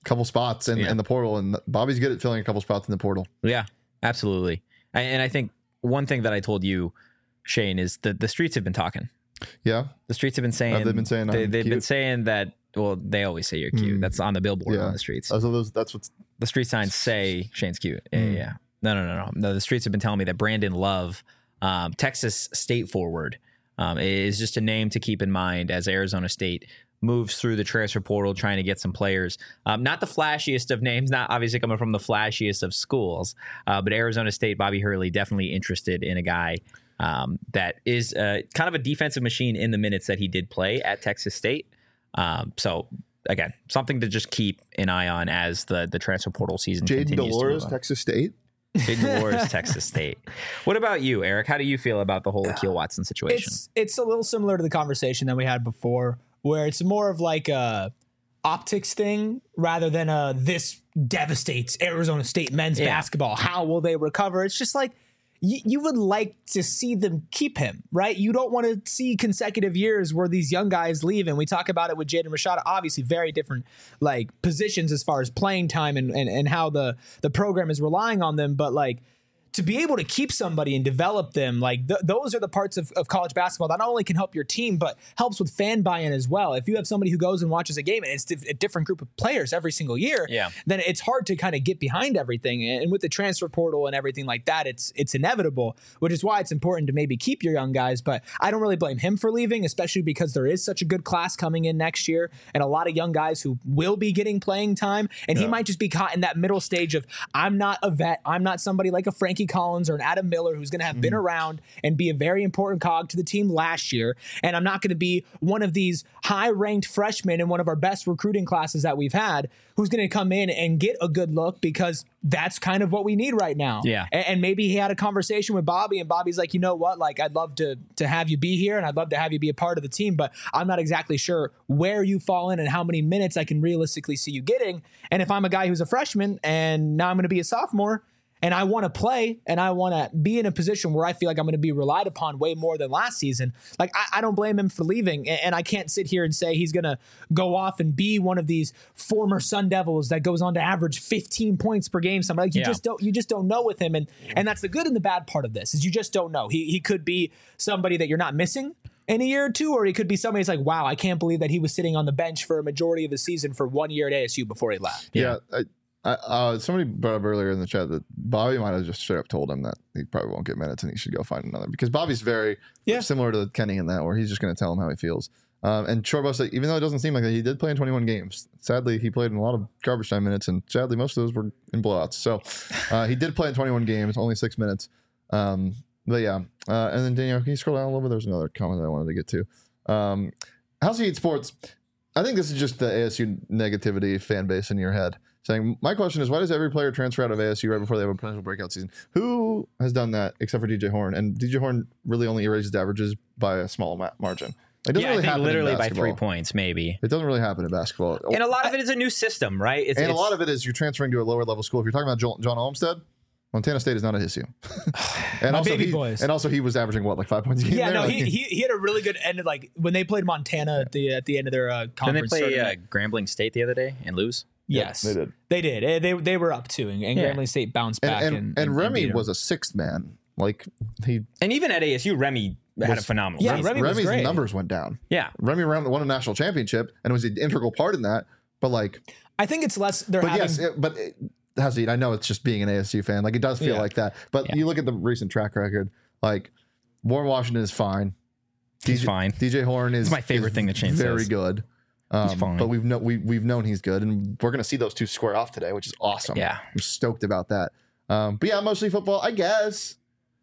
couple spots in, Yeah. in the portal, and Bobby's good at filling a couple spots in the portal. Yeah, absolutely. And and I think one thing that I told you, Shane, is that the streets have been talking. Yeah, The streets have been saying Have they been saying they, I'm they've been cute? saying that. Well, they always say you're cute. Mm. That's on the billboard Yeah. on the streets. Uh, so those, that's what's The street signs say Shane's cute. Yeah, Mm. yeah. No, no, no, no. No, the streets have been telling me that Brandon Love, um, Texas State forward, um, is just a name to keep in mind as Arizona State moves through the transfer portal trying to get some players. Um, not the flashiest of names, not obviously coming from the flashiest of schools, uh, but Arizona State, Bobby Hurley, definitely interested in a guy um, that is uh, kind of a defensive machine in the minutes that he did play at Texas State. Um, so, again, something to just keep an eye on as the, the transfer portal season Jaden continues. Dolores, to move on. Texas State. Jaden Dolores, Texas State. What about you, Eric? How do you feel about the whole Akil Watson situation? It's it's a little similar to the conversation that we had before, where it's more of like a optics thing rather than a this devastates Arizona State men's Yeah. basketball. How will they recover? It's just like you, you would like to see them keep him, right? You don't want to see consecutive years where these young guys leave. And we talk about it with Jaden Rashada, obviously very different like positions as far as playing time and, and, and how the, the program is relying on them. But like, to be able to keep somebody and develop them, like th- those are the parts of, of college basketball that not only can help your team, but helps with fan buy-in as well. If you have somebody who goes and watches a game and it's a different group of players every single year, Yeah. then it's hard to kind of get behind everything. And with the transfer portal and everything like that, it's it's inevitable, which is why it's important to maybe keep your young guys. But I don't really blame him for leaving, especially because there is such a good class coming in next year and a lot of young guys who will be getting playing time. And he might just be caught in that middle stage of, I'm not a vet. I'm not somebody like a Frankie Collins or an Adam Miller who's going to have been around and be a very important cog to the team last year. And I'm not going to be one of these high-ranked freshmen in one of our best recruiting classes that we've had who's going to come in and get a good look because that's kind of what we need right now. Yeah. And, and maybe he had a conversation with Bobby and Bobby's like, you know what? Like, I'd love to, to have you be here and I'd love to have you be a part of the team, but I'm not exactly sure where you fall in and how many minutes I can realistically see you getting. And if I'm a guy who's a freshman and now I'm going to be a sophomore, and I want to play and I want to be in a position where I feel like I'm going to be relied upon way more than last season. Like, I, I don't blame him for leaving. And, and I can't sit here and say he's going to go off and be one of these former Sun Devils that goes on to average fifteen points per game. Something like you Yeah. just don't, you just don't know with him. And, and that's the good and the bad part of this is you just don't know. He, he could be somebody that you're not missing in a year or two, or he could be somebody that's like, wow, I can't believe that he was sitting on the bench for a majority of the season for one year at A S U before he left. Yeah. I, I, uh, somebody brought up earlier in the chat that Bobby might have just straight up told him that he probably won't get minutes and he should go find another, because Bobby's very Yeah. similar to Kenny in that, where he's just going to tell him how he feels. Um, and Shortbus, like, even though it doesn't seem like that, he did play in twenty-one games. Sadly, he played in a lot of garbage time minutes, and sadly, most of those were in blowouts. So uh, he did play in twenty-one games, only six minutes. Um, but yeah, uh, and then Daniel, can you scroll down a little bit? There's another comment that I wanted to get to. Um, House of Heat Sports. I think this is just the A S U negativity fan base in your head. Saying, my question is, why does every player transfer out of A S U right before they have a potential breakout season? Who has done that except for D J Horn? And D J Horn really only erases averages by a small ma- margin. It doesn't yeah, really I think happen in literally by basketball. three points, maybe. It doesn't really happen in basketball. And a lot of it is a new system, right? It's, And a it's- lot of it is you're transferring to a lower level school. If you're talking about Joel, John Olmstead, Montana State is not a H S U. and My also baby he, boys. And also he was averaging what, like five points a game? Yeah, there? no, Like, he, he he had a really good end of like when they played Montana at the at the end of their uh, Didn't they conference. play uh, tournament. Grambling State the other day and lose? yes, they did. They did. Eh, They they were up too, and, and Yeah. Grambling State bounced And, back. and, and, and, Remy beat 'em. was a sixth man. Like he, And even at A S U, Remy had a Was- phenomenal Yeah, season. Remy was Remy's great. numbers went down. Yeah. Remy ran, won a national championship and was an integral part in that. But like, I think it's less. They're but having. yes, it, but it, Hasid, I know it's just being an A S U fan. Like it does feel Yeah. like that. But Yeah. you look at the recent track record. Like Warren Washington is fine. He's D J, fine. D J Horn is my favorite is thing that Shane very says. good. Um, fine. But we've no, we we've known he's good, and we're gonna see those two square off today, which is awesome. Yeah. I'm stoked about that. Um, but yeah, mostly football, I guess.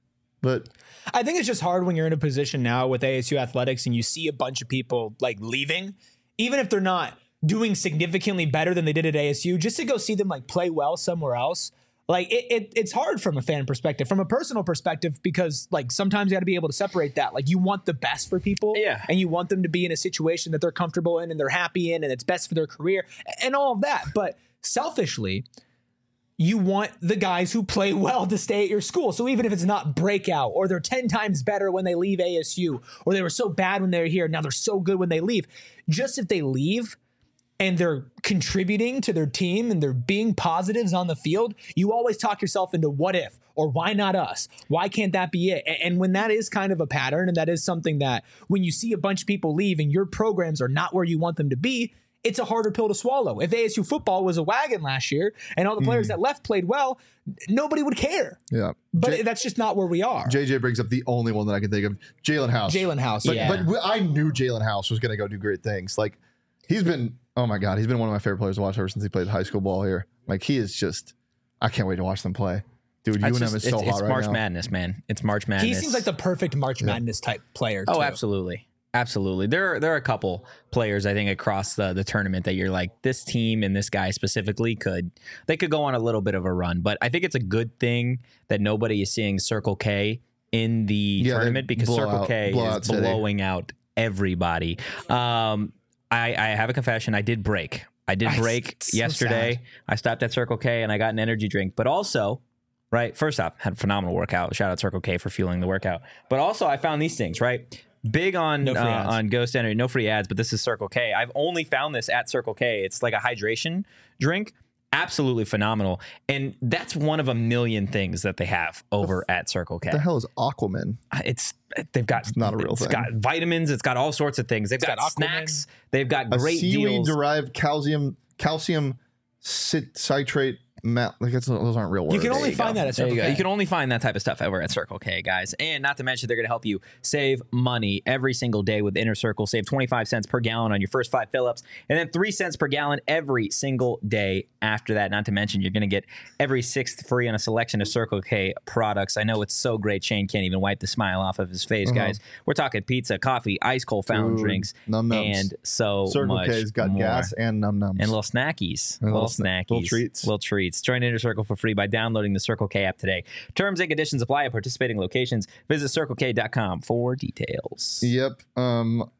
But I think it's just hard when you're in a position now with A S U athletics and you see a bunch of people like leaving, even if they're not doing significantly better than they did at A S U, just to go see them like play well somewhere else. Like it, it it's hard from a fan perspective, from a personal perspective, because like sometimes you got to be able to separate that. Like you want the best for people, Yeah. and you want them to be in a situation that they're comfortable in and they're happy in and it's best for their career and all of that. But selfishly, you want the guys who play well to stay at your school. So even if it's not breakout or they're ten times better when they leave A S U or they were so bad when they were here, now they're so good when they leave. Just if they leave and they're contributing to their team and they're being positives on the field, you always talk yourself into what if or why not us? Why can't that be it? And when that is kind of a pattern, and that is something that when you see a bunch of people leave and your programs are not where you want them to be, it's a harder pill to swallow. If A S U football was a wagon last year and all the players mm. that left played well, nobody would care. Yeah. But J- that's just not where we are. J J brings up the only one that I can think of, Jalen House. Jalen House. But, yeah. but I knew Jalen House was going to go do great things. Like, he's been, oh my God, he's been one of my favorite players to watch ever since he played high school ball here. Like, he is just, I can't wait to watch them play. Dude, U N M just, is so it's, hot it's right March now. Madness, man. It's March Madness. He seems like the perfect March Madness yeah. type player. Oh, too. absolutely. Absolutely. There are, there are a couple players, I think, across the, the tournament that you're like, this team and this guy specifically could, they could go on a little bit of a run. But I think it's a good thing that nobody is seeing Circle K in the yeah, tournament because Circle out, K is blowing city. out everybody. Um, I, I have a confession. I did break. I did break I, yesterday. So I stopped at Circle K and I got an energy drink. But also, right, first off, had a phenomenal workout. Shout out Circle K for fueling the workout. But also, I found these things, right? Big on no uh, on Ghost Energy, no free ads, but this is Circle K. I've only found this at Circle K. It's like a hydration drink. Absolutely phenomenal. And that's one of a million things that they have over at Circle K. What the hell is Aquaman? It's they've got it's not a real it's thing. It's got vitamins, it's got all sorts of things. They've got, got snacks, they've got great a seaweed deals. derived calcium calcium cit- citrate Matt, like it's, those aren't real words. You can only you find go. that at Circle you K. You can only find that type of stuff over at Circle K, guys. And not to mention, they're going to help you save money every single day with Inner Circle. Save twenty-five cents per gallon on your first five fill-ups, and then three cents per gallon every single day after that. Not to mention, you're going to get every sixth free on a selection of Circle K products. I know it's so great. Shane can't even wipe the smile off of his face, uh-huh. guys. We're talking pizza, coffee, ice cold fountain Ooh, drinks, num-nums. and so Circle much K's got more. gas and num-nums. And little snackies. And little, little snackies. Little treats. Little treats. Join Inner Circle for free by downloading the Circle K app today. Terms and conditions apply at participating locations. Visit circle k dot com for details. Yep. Um,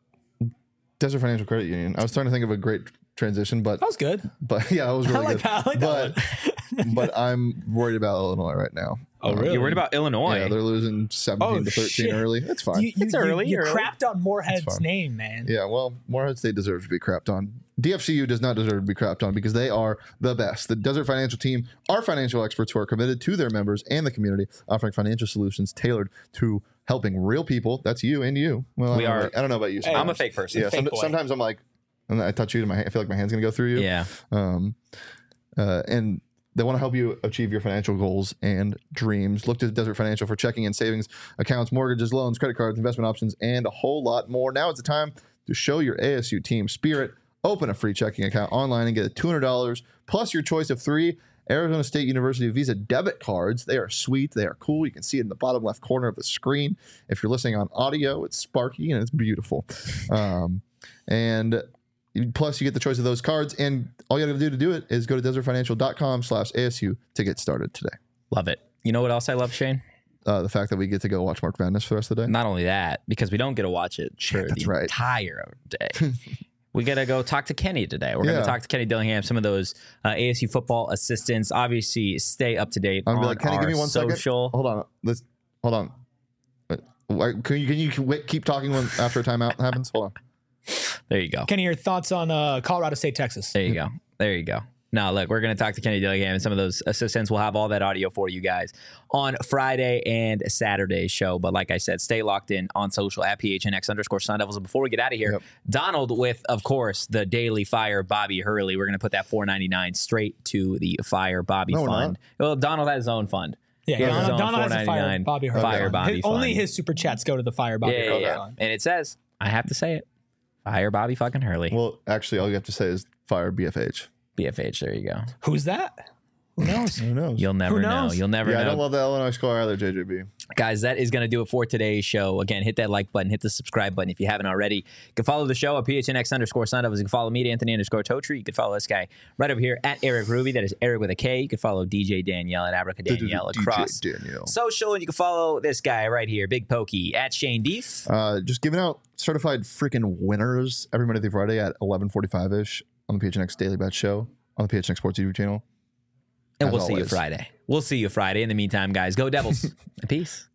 Desert Financial Credit Union. I was trying to think of a great transition, but that was good. But yeah, that was really I like good. That. I like but that but I'm worried about Illinois right now. Oh, really? You're worried about Illinois? Yeah, they're losing seventeen oh, to thirteen shit. early. It's fine. You, you, it's early. You, you early. crapped on Moorhead's name, man. Yeah, well, Moorhead State deserves to be crapped on. D F C U does not deserve to be crapped on because they are the best. The Desert Financial team are financial experts who are committed to their members and the community, offering financial solutions tailored to helping real people. That's you and you. Well, we I are. About, I don't know about you. Hey, I'm a fake person. Yeah, fake some, sometimes I'm like, and I touch you, and my I feel like my hand's gonna go through you. Yeah. Um, uh, and they want to help you achieve your financial goals and dreams. Look to Desert Financial for checking and savings accounts, mortgages, loans, credit cards, investment options, and a whole lot more. Now is the time to show your A S U team spirit. Open a free checking account online and get two hundred dollars plus your choice of three Arizona State University Visa debit cards. They are sweet. They are cool. You can see it in the bottom left corner of the screen. If you're listening on audio, it's sparky and it's beautiful. Um, and plus, you get the choice of those cards. And all you got to do to do it is go to desert financial dot com slash A S U to get started today. Love it. You know what else I love, Shane? Uh, the fact that we get to go watch March Madness for the rest of the day. Not only that, because we don't get to watch it for That's the right. entire day. We got to go talk to Kenny today. We're Yeah. going to talk to Kenny Dillingham, some of those uh, A S U football assistants. Obviously, stay up to date I'm on gonna be like, Kenny, our give me one second. social. Hold on. Let's hold on. Wait, Can you can you wait, keep talking when after a timeout happens? Hold on. There you go. Kenny, your thoughts on uh, Colorado State, Texas? There you go. There you go. Now, look, we're going to talk to Kenny Dillingham and some of those assistants. We'll have all that audio for you guys on Friday and Saturday's show. But like I said, stay locked in on social at P H N X underscore Sun Devils. And before we get out of here, Yep. Donald with, of course, the Daily Fire Bobby Hurley. We're going to put that four ninety-nine straight to the Fire Bobby No, we're fund. Well, Donald has his own fund. Yeah, He has his Donald, own Donald has a Fire four ninety-nine Bobby Hurley. Fire fund. Bobby His- fund. Only his super chats go to the Fire Bobby Yeah, yeah, Hurley yeah. fund. And it says, I have to say it, Fire Bobby fucking Hurley. Well, actually, all you have to say is fire B F H. B F H, there you go. Who's that? Who knows? Who knows? You'll never Who know. knows? You'll never yeah, know. I don't love the Illinois score either, J J B. Guys, that is going to do it for today's show. Again, hit that like button, hit the subscribe button if you haven't already. You can follow the show at P H N X underscore Sun Devils. You can follow me at Anthony underscore Totri. You can follow this guy right over here at Eric Ruby. That is Eric with a K. You can follow D J Danielle at Abraca Danielle across D J Danielle. social. And you can follow this guy right here, Big Pokey, at Shane Deef. Uh, just giving out certified freaking winners every Monday through Friday at eleven forty-five ish on the P H N X Daily Bet Show on the P H N X Sports YouTube channel. And As we'll see you always. Friday. We'll see you Friday. In the meantime, guys, go Devils. Peace.